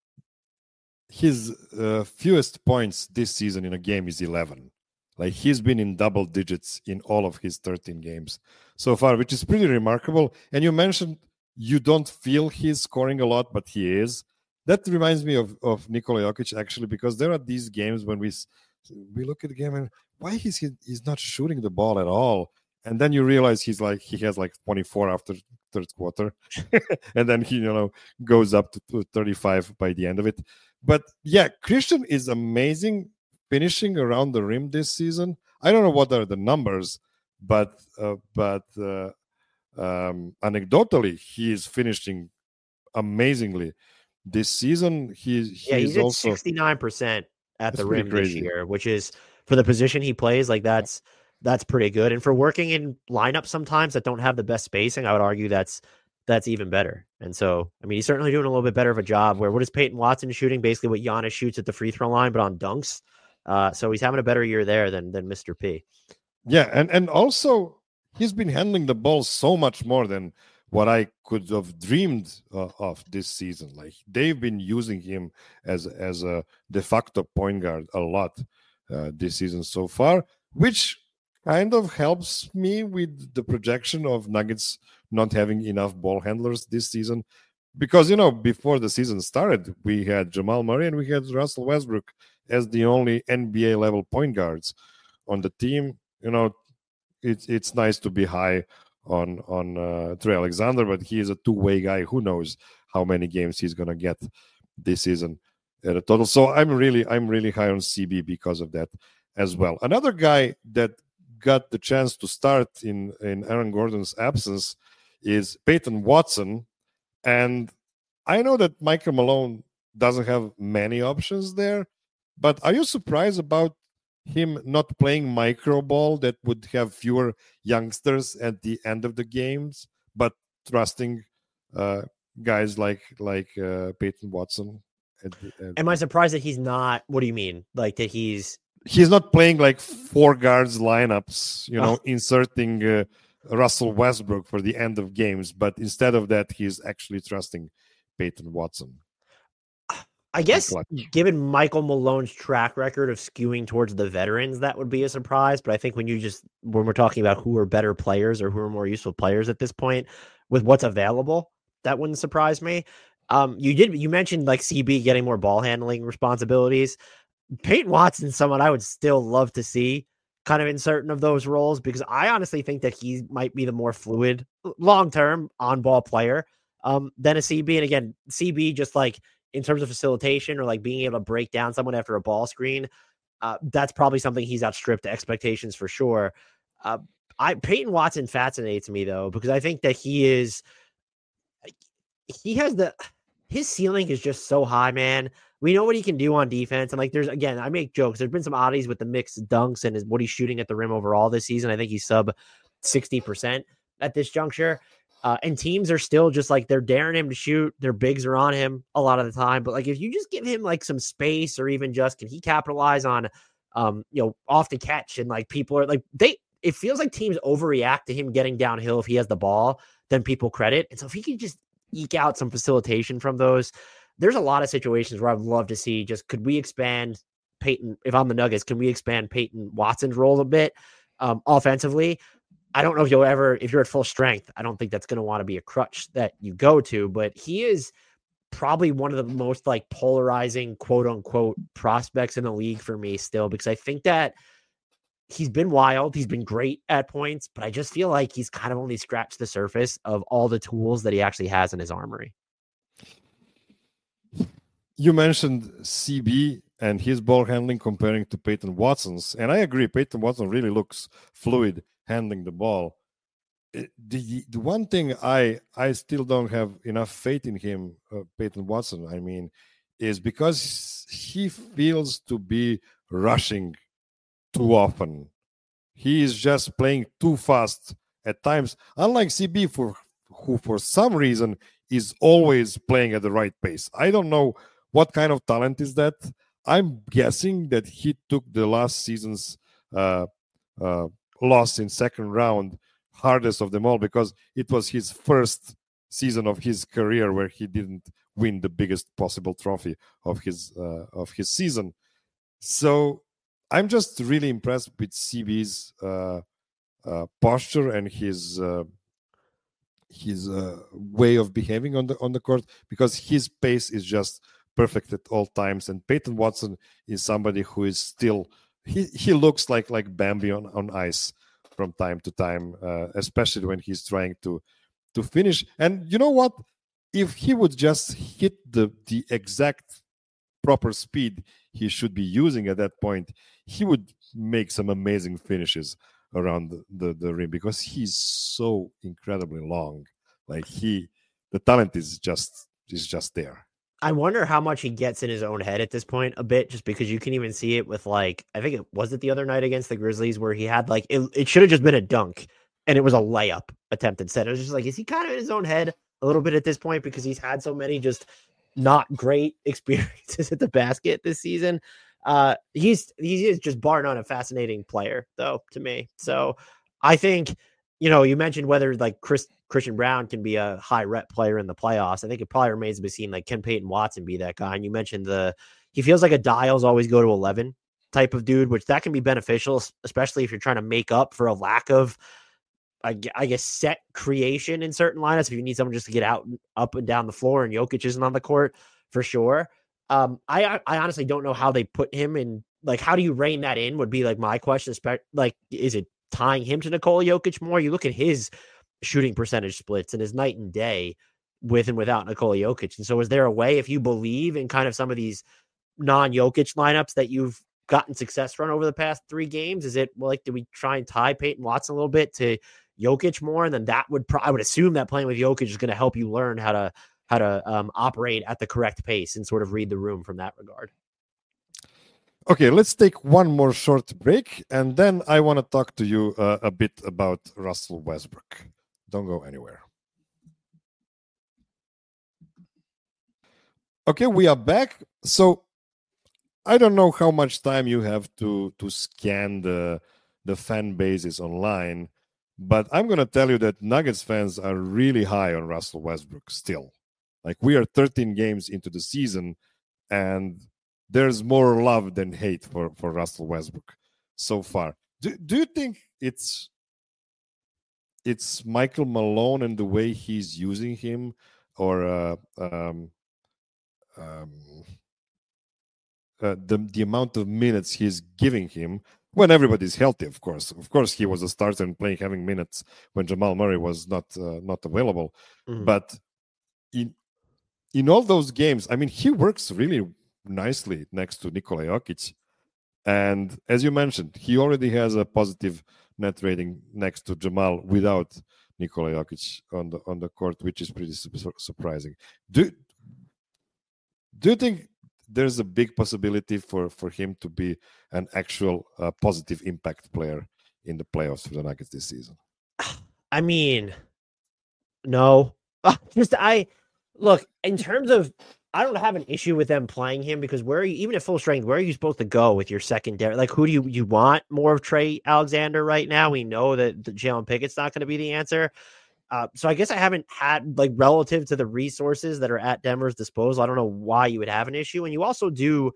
Speaker 1: his fewest points this season in a game is 11. Like he's been in double digits in all of his 13 games so far, which is pretty remarkable. And you mentioned you don't feel he's scoring a lot, but he is. That reminds me of Nikola Jokic, actually, because there are these games when we look at the game and why he's not shooting the ball at all. And then you realize he has 24 after third quarter. And then he, goes up to 35 by the end of it. But yeah, Christian is amazing finishing around the rim this season. I don't know what are the numbers, but anecdotally, he is finishing amazingly this season. He's
Speaker 2: at
Speaker 1: also
Speaker 2: 69% at the rim this year, which is for the position he plays. Like that's pretty good. And for working in lineups sometimes that don't have the best spacing, I would argue that's even better. And so, I mean, he's certainly doing a little bit better of a job where what is Peyton Watson shooting? Basically what Giannis shoots at the free throw line, but on dunks. So he's having a better year there than Mr. P.
Speaker 1: Yeah, and also he's been handling the ball so much more than what I could have dreamed of this season. Like they've been using him as a de facto point guard a lot this season so far, which kind of helps me with the projection of Nuggets not having enough ball handlers this season. Because, before the season started, we had Jamal Murray and we had Russell Westbrook as the only NBA level point guards on the team. it's nice to be high on Trey Alexander, but he is a two-way guy. Who knows how many games he's gonna get this season at a total. So I'm really high on CB because of that as well. Another guy that got the chance to start in Aaron Gordon's absence is Peyton Watson, and I know that Michael Malone doesn't have many options there, but are you surprised about him not playing micro ball that would have fewer youngsters at the end of the games, but trusting guys like Peyton Watson?
Speaker 2: Am I surprised that he's not? What do you mean? Like that he's
Speaker 1: not playing like four guards lineups, inserting Russell Westbrook for the end of games, but instead of that, he's actually trusting Peyton Watson.
Speaker 2: I guess given Michael Malone's track record of skewing towards the veterans, that would be a surprise. But I think when we're talking about who are better players or who are more useful players at this point with what's available, that wouldn't surprise me. You mentioned like CB getting more ball handling responsibilities. Peyton Watson, someone I would still love to see kind of in certain of those roles, because I honestly think that he might be the more fluid long-term on-ball player than a CB. And again, CB just like in terms of facilitation or like being able to break down someone after a ball screen, that's probably something he's outstripped expectations for sure. Peyton Watson fascinates me though, because I think that his ceiling is just so high, man. We know what he can do on defense. And like, I make jokes. There's been some oddities with the mixed dunks and what he's shooting at the rim overall this season. I think he's sub 60% at this juncture. And teams are still just like, they're daring him to shoot. Their bigs are on him a lot of the time. But like, if you just give him like some space, or even just, can he capitalize on, off the catch, and like people are like, it feels like teams overreact to him getting downhill if he has the ball than people credit. And so if he can just eke out some facilitation from those, there's a lot of situations where I'd love to see could we expand Peyton, if I'm the Nuggets, can we expand Peyton Watson's role a bit offensively? I don't know if you're at full strength, I don't think that's going to want to be a crutch that you go to, but he is probably one of the most like polarizing quote unquote prospects in the league for me still, because I think that he's been wild. He's been great at points, but I just feel like he's kind of only scratched the surface of all the tools that he actually has in his armory.
Speaker 1: You mentioned CB and his ball handling comparing to Peyton Watson's, and I agree. Peyton Watson really looks fluid handling the ball. The one thing I still don't have enough faith in him, Peyton Watson, I mean, is because he feels to be rushing too often. He is just playing too fast at times, unlike CB, who for some reason is always playing at the right pace. I don't know what kind of talent is that. I'm guessing that he took the last season's loss in second round hardest of them all, because it was his first season of his career where he didn't win the biggest possible trophy of his season. So I'm just really impressed with CB's posture and his way of behaving on the court, because his pace is just perfect at all times. And Peyton Watson is somebody who is still he looks like Bambi on ice from time to time, especially when he's trying to finish. And you know what? If he would just hit the exact proper speed he should be using at that point, he would make some amazing finishes around the rim, because he's so incredibly long. Like the talent is just there.
Speaker 2: I wonder how much he gets in his own head at this point a bit, just because you can even see it with like, I think it was the other night against the Grizzlies where he had like, it should have just been a dunk and it was a layup attempt instead. It was just like, is he kind of in his own head a little bit at this point, because he's had so many just not great experiences at the basket this season? He is just bar none a fascinating player though to me. So I think, you mentioned whether like Christian Braun can be a high rep player in the playoffs. I think it probably remains to be seen. Like, can Peyton Watson be that guy? And you mentioned he feels like a dials always go to 11 type of dude, which that can be beneficial, especially if you're trying to make up for a lack of, I guess, set creation in certain lineups. If you need someone just to get out, up and down the floor, and Jokic isn't on the court for sure. I honestly don't know how they put him in. Like, how do you rein that in? Would be like my question. Like, is it tying him to Nikola Jokic more. You look at his shooting percentage splits and his night and day with and without Nikola Jokic. And so is there a way, if you believe in kind of some of these non-Jokic lineups that you've gotten success from over the past 3 games, is it like, do we try and tie Peyton Watson a little bit to Jokic more? And then that would, I would assume that playing with Jokic is going to help you learn how to operate at the correct pace and sort of read the room from that regard.
Speaker 1: Okay, let's take one more short break, and then I want to talk to you a bit about Russell Westbrook. Don't go anywhere. Okay, we are back. So I don't know how much time you have to scan the fan bases online, but I'm going to tell you that Nuggets fans are really high on Russell Westbrook still. Like, we are 13 games into the season, and there's more love than hate for Russell Westbrook so far. Do you think it's Michael Malone and the way he's using him, or the amount of minutes he's giving him when everybody's healthy? Of course, he was a starter and having minutes when Jamal Murray was not available. Mm-hmm. But in all those games, I mean, he works really nicely next to Nikola Jokic, and as you mentioned, he already has a positive net rating next to Jamal without Nikola Jokic on the court, which is pretty surprising. Do you think there's a big possibility for him to be an actual positive impact player in the playoffs for the Nuggets this season?
Speaker 2: I mean, no. Look, in terms of, I don't have an issue with them playing him, because where are you, even at full strength, where are you supposed to go with your secondary? Like, who do you want more of Trey Alexander right now? We know that Jalen Pickett's not going to be the answer. So I guess I haven't had, like, relative to the resources that are at Denver's disposal, I don't know why you would have an issue. And you also do,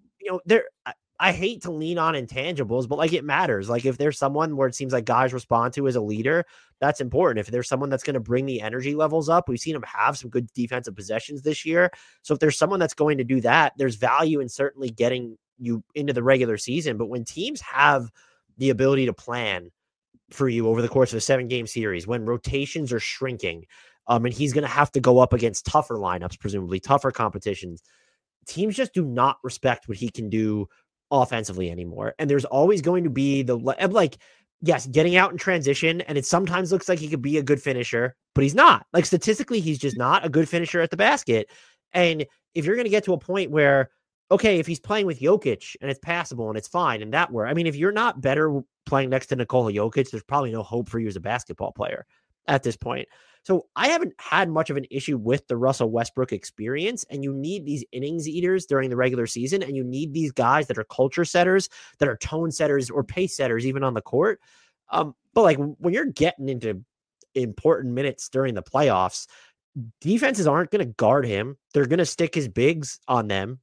Speaker 2: I hate to lean on intangibles, but like, it matters. Like, if there's someone where it seems like guys respond to as a leader, that's important. If there's someone that's going to bring the energy levels up, we've seen him have some good defensive possessions this year. So if there's someone that's going to do that, there's value in certainly getting you into the regular season. But when teams have the ability to plan for you over the course of a 7-game series, when rotations are shrinking, and he's going to have to go up against tougher lineups, presumably tougher competitions, teams just do not respect what he can do offensively anymore. And there's always going to be yes, getting out in transition, and it sometimes looks like he could be a good finisher, but he's not. Like, statistically, he's just not a good finisher at the basket. And if you're going to get to a point where, okay, if he's playing with Jokic and it's passable and it's fine and that where, I mean, if you're not better playing next to Nikola Jokic, there's probably no hope for you as a basketball player at this point. So I haven't had much of an issue with the Russell Westbrook experience, and you need these innings eaters during the regular season, and you need these guys that are culture setters, that are tone setters or pace setters, even on the court. But like, when you're getting into important minutes during the playoffs, defenses aren't going to guard him. They're going to stick their bigs on him,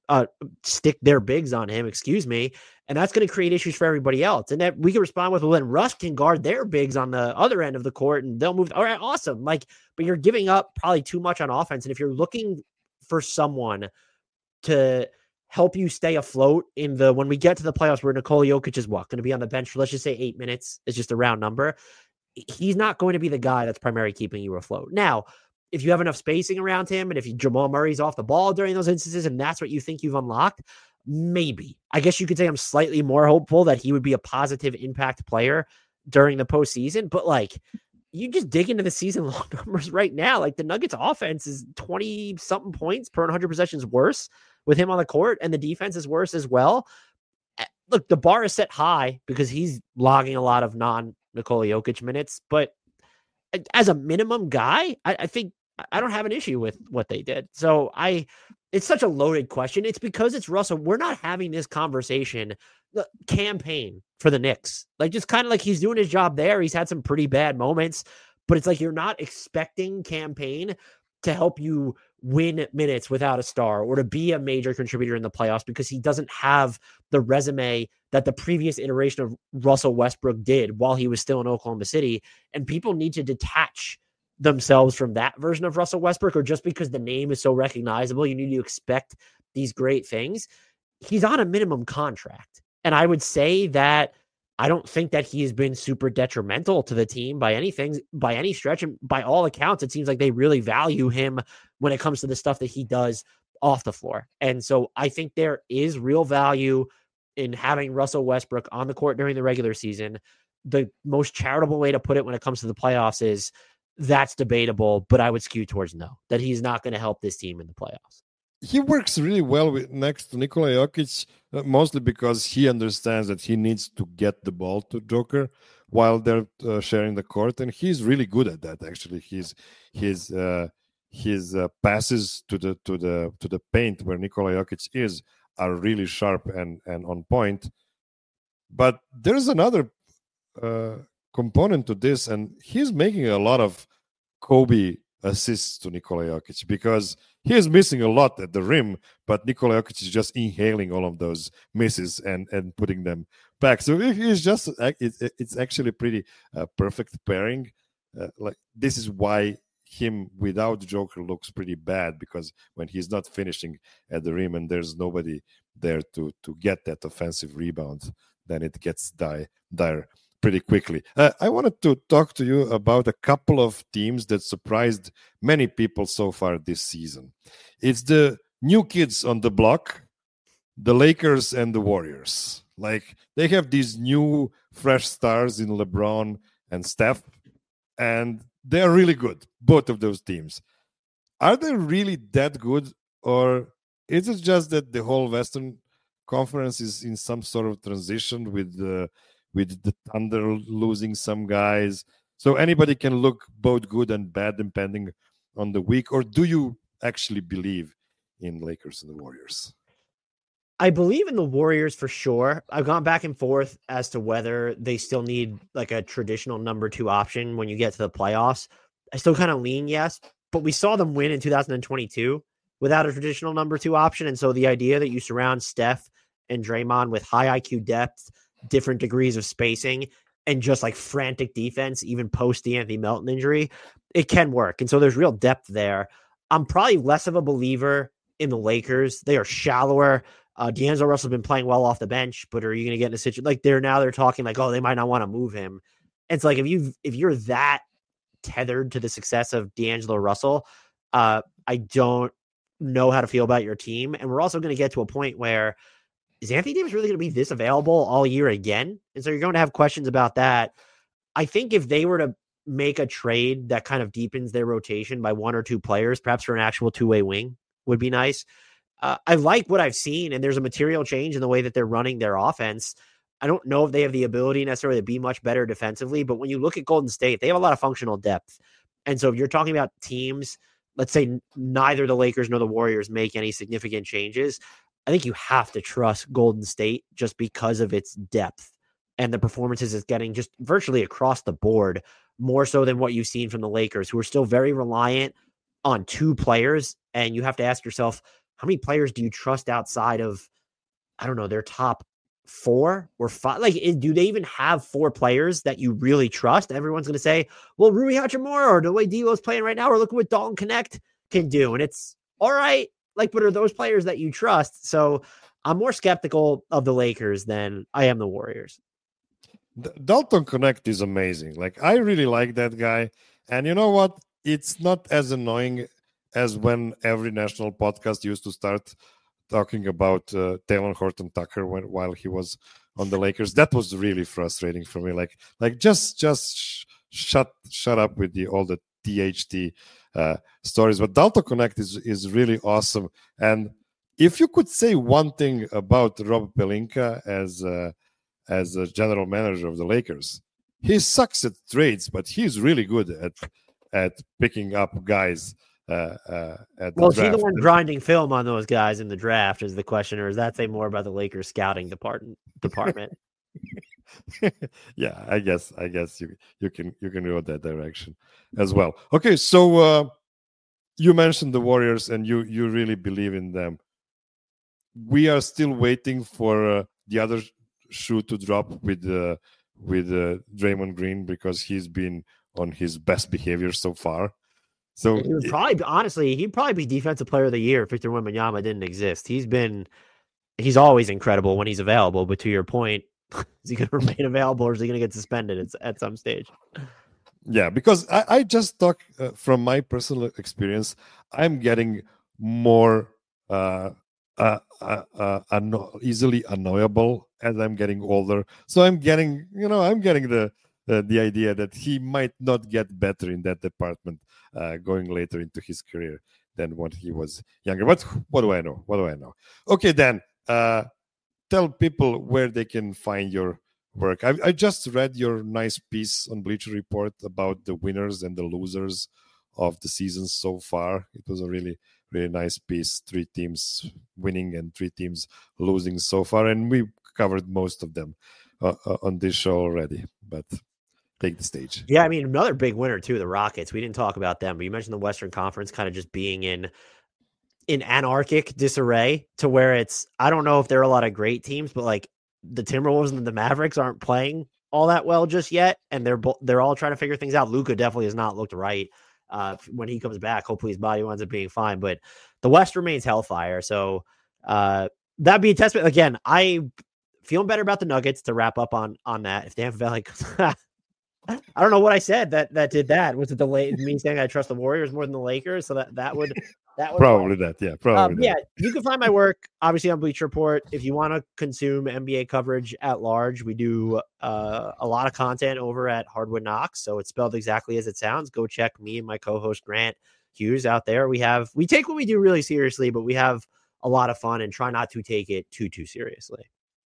Speaker 2: excuse me. And that's going to create issues for everybody else. And that we can respond with, well, then Russ can guard their bigs on the other end of the court and they'll move. All right, awesome. Like, but you're giving up probably too much on offense. And if you're looking for someone to help you stay afloat when we get to the playoffs where Nikola Jokic is going to be on the bench for, let's just say 8 minutes, is just a round number. He's not going to be the guy that's primarily keeping you afloat. Now, if you have enough spacing around him, and if Jamal Murray's off the ball during those instances, and that's what you think you've unlocked, maybe. I guess you could say I'm slightly more hopeful that he would be a positive impact player during the postseason. But like, you just dig into the season long numbers right now. Like, the Nuggets offense is 20-something points per 100 possessions worse with him on the court, and the defense is worse as well. Look, the bar is set high because he's logging a lot of non-Nikola Jokic minutes. But as a minimum guy, I think I don't have an issue with what they did. So it's such a loaded question. It's because it's Russell. We're not having this conversation, the campaign for the Knicks. Like, just kind of like, he's doing his job there. He's had some pretty bad moments, but it's like, you're not expecting campaign to help you win minutes without a star or to be a major contributor in the playoffs, because he doesn't have the resume that the previous iteration of Russell Westbrook did while he was still in Oklahoma City. And people need to detach themselves from that version of Russell Westbrook, or just because the name is so recognizable, you need to expect these great things. He's on a minimum contract. And I would say that I don't think that he has been super detrimental to the team by any stretch. And by all accounts, it seems like they really value him when it comes to the stuff that he does off the floor. And so I think there is real value in having Russell Westbrook on the court during the regular season. The most charitable way to put it when it comes to the playoffs is that's debatable, but I would skew towards no, that he's not going to help this team in the playoffs.
Speaker 1: He works really well next to Nikola Jokic, mostly because he understands that he needs to get the ball to Joker while they're sharing the court, and he's really good at that. Actually, his passes to the paint where Nikola Jokic is are really sharp and on point. But there's another component to this, and he's making a lot of Kobe assists to Nikola Jokic because he is missing a lot at the rim, but Nikola Jokic is just inhaling all of those misses and putting them back. So it's actually pretty perfect pairing. Like this is why him without Joker looks pretty bad, because when he's not finishing at the rim and there's nobody there to get that offensive rebound, then it gets dire pretty quickly. I wanted to talk to you about a couple of teams that surprised many people so far this season. It's the new kids on the block, the Lakers and the Warriors. Like they have these new fresh stars in LeBron and Steph, and they're really good, both of those teams. Are they really that good, or is it just that the whole Western Conference is in some sort of transition with the Thunder losing some guys, so anybody can look both good and bad depending on the week? Or do you actually believe in Lakers and the Warriors?
Speaker 2: I believe in the Warriors for sure. I've gone back and forth as to whether they still need like a traditional number 2 option when you get to the playoffs. I still kind of lean yes, but we saw them win in 2022 without a traditional number 2 option. And so the idea that you surround Steph and Draymond with high IQ depth, different degrees of spacing, and just like frantic defense, even post the Anthony Melton injury, it can work. And so there's real depth there. I'm probably less of a believer in the Lakers. They are shallower. D'Angelo Russell's been playing well off the bench, but are you going to get in a situation like they're talking like, oh, they might not want to move him. And it's like, if you're that tethered to the success of D'Angelo Russell, I don't know how to feel about your team. And we're also going to get to a point where, is Anthony Davis really going to be this available all year again? And so you're going to have questions about that. I think if they were to make a trade that kind of deepens their rotation by 1 or 2 players, perhaps for an actual 2-way wing, would be nice. I like what I've seen, and there's a material change in the way that they're running their offense. I don't know if they have the ability necessarily to be much better defensively, but when you look at Golden State, they have a lot of functional depth. And so if you're talking about teams, let's say neither the Lakers nor the Warriors make any significant changes, I think you have to trust Golden State just because of its depth and the performances it's getting just virtually across the board, more so than what you've seen from the Lakers, who are still very reliant on 2 players. And you have to ask yourself, how many players do you trust outside of, I don't know, their top 4 or 5? Like, do they even have 4 players that you really trust? Everyone's going to say, well, Rui Hachimura or the way D'Lo's playing right now, or look at what Dalton Connect can do. And it's all right. Like, but are those players that you trust? So I'm more skeptical of the Lakers than I am the Warriors.
Speaker 1: Dalton Connect is amazing. Like, I really like that guy. And you know what? It's not as annoying as when every national podcast used to start talking about Taylor Horton Tucker while he was on the Lakers. That was really frustrating for me. Like just shut up with all the THT stories. But Dalton Connect is really awesome. And if you could say one thing about Rob Pelinka as a general manager of the Lakers, he sucks at trades, but he's really good at picking up guys. At the
Speaker 2: well, is
Speaker 1: draft.
Speaker 2: he the one grinding film on those guys in the draft is the question, or does that say more about the Lakers scouting department?
Speaker 1: Yeah, I guess you can go that direction as well. Okay, so you mentioned the Warriors, and you really believe in them. We are still waiting for the other shoe to drop with Draymond Green, because he's been on his best behavior so far. So
Speaker 2: he would he'd probably be Defensive Player of the Year if Victor Wembanyama didn't exist. He's always incredible when he's available. But to your point, Is he going to remain available, or is he going to get suspended at some stage?
Speaker 1: Yeah, because I just talk from my personal experience. I'm getting more easily annoyable as I'm getting older. So I'm getting the idea that he might not get better in that department going later into his career than when he was younger. But what do I know? What do I know? Okay, Dan, tell people where they can find your work. I just read your nice piece on Bleacher Report about the winners and the losers of the season so far. It was a really, really nice piece. 3 teams winning and 3 teams losing so far, and we covered most of them on this show already. But take the stage.
Speaker 2: Yeah, I mean, another big winner too, the Rockets. We didn't talk about them, but you mentioned the Western Conference kind of just being in anarchic disarray to where it's, I don't know if there are a lot of great teams, but like the Timberwolves and the Mavericks aren't playing all that well just yet, and they're all trying to figure things out. Luka definitely has not looked right when he comes back. Hopefully his body winds up being fine, but the West remains hellfire. So that'd be a testament. Again, I feeling better about the Nuggets to wrap up on that. If they have like I don't know what I said that did that. Was it me saying I trust the Warriors more than the Lakers? So that would
Speaker 1: probably that. Yeah, probably.
Speaker 2: Yeah, you can find my work obviously on Bleacher Report. If you want to consume NBA coverage at large, we do a lot of content over at Hardwood Knocks. So it's spelled exactly as it sounds. Go check me and my co-host Grant Hughes out there. We take what we do really seriously, but we have a lot of fun and try not to take it too seriously.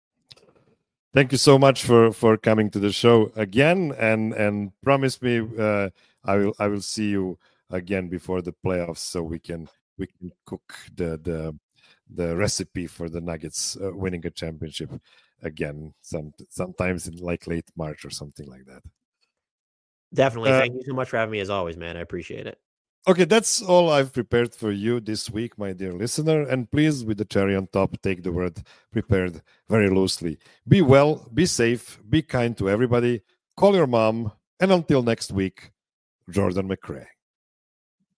Speaker 1: Thank you so much for coming to the show again, and promise me I will see you again before the playoffs, so we can cook the recipe for the Nuggets winning a championship again sometimes in like late March or something like that.
Speaker 2: Definitely. Thank you so much for having me as always, man. I appreciate it.
Speaker 1: Okay, that's all I've prepared for you this week, my dear listener. And please, with the cherry on top, take the word prepared very loosely. Be well, be safe, be kind to everybody, call your mom, and until next week, Jordan McRae.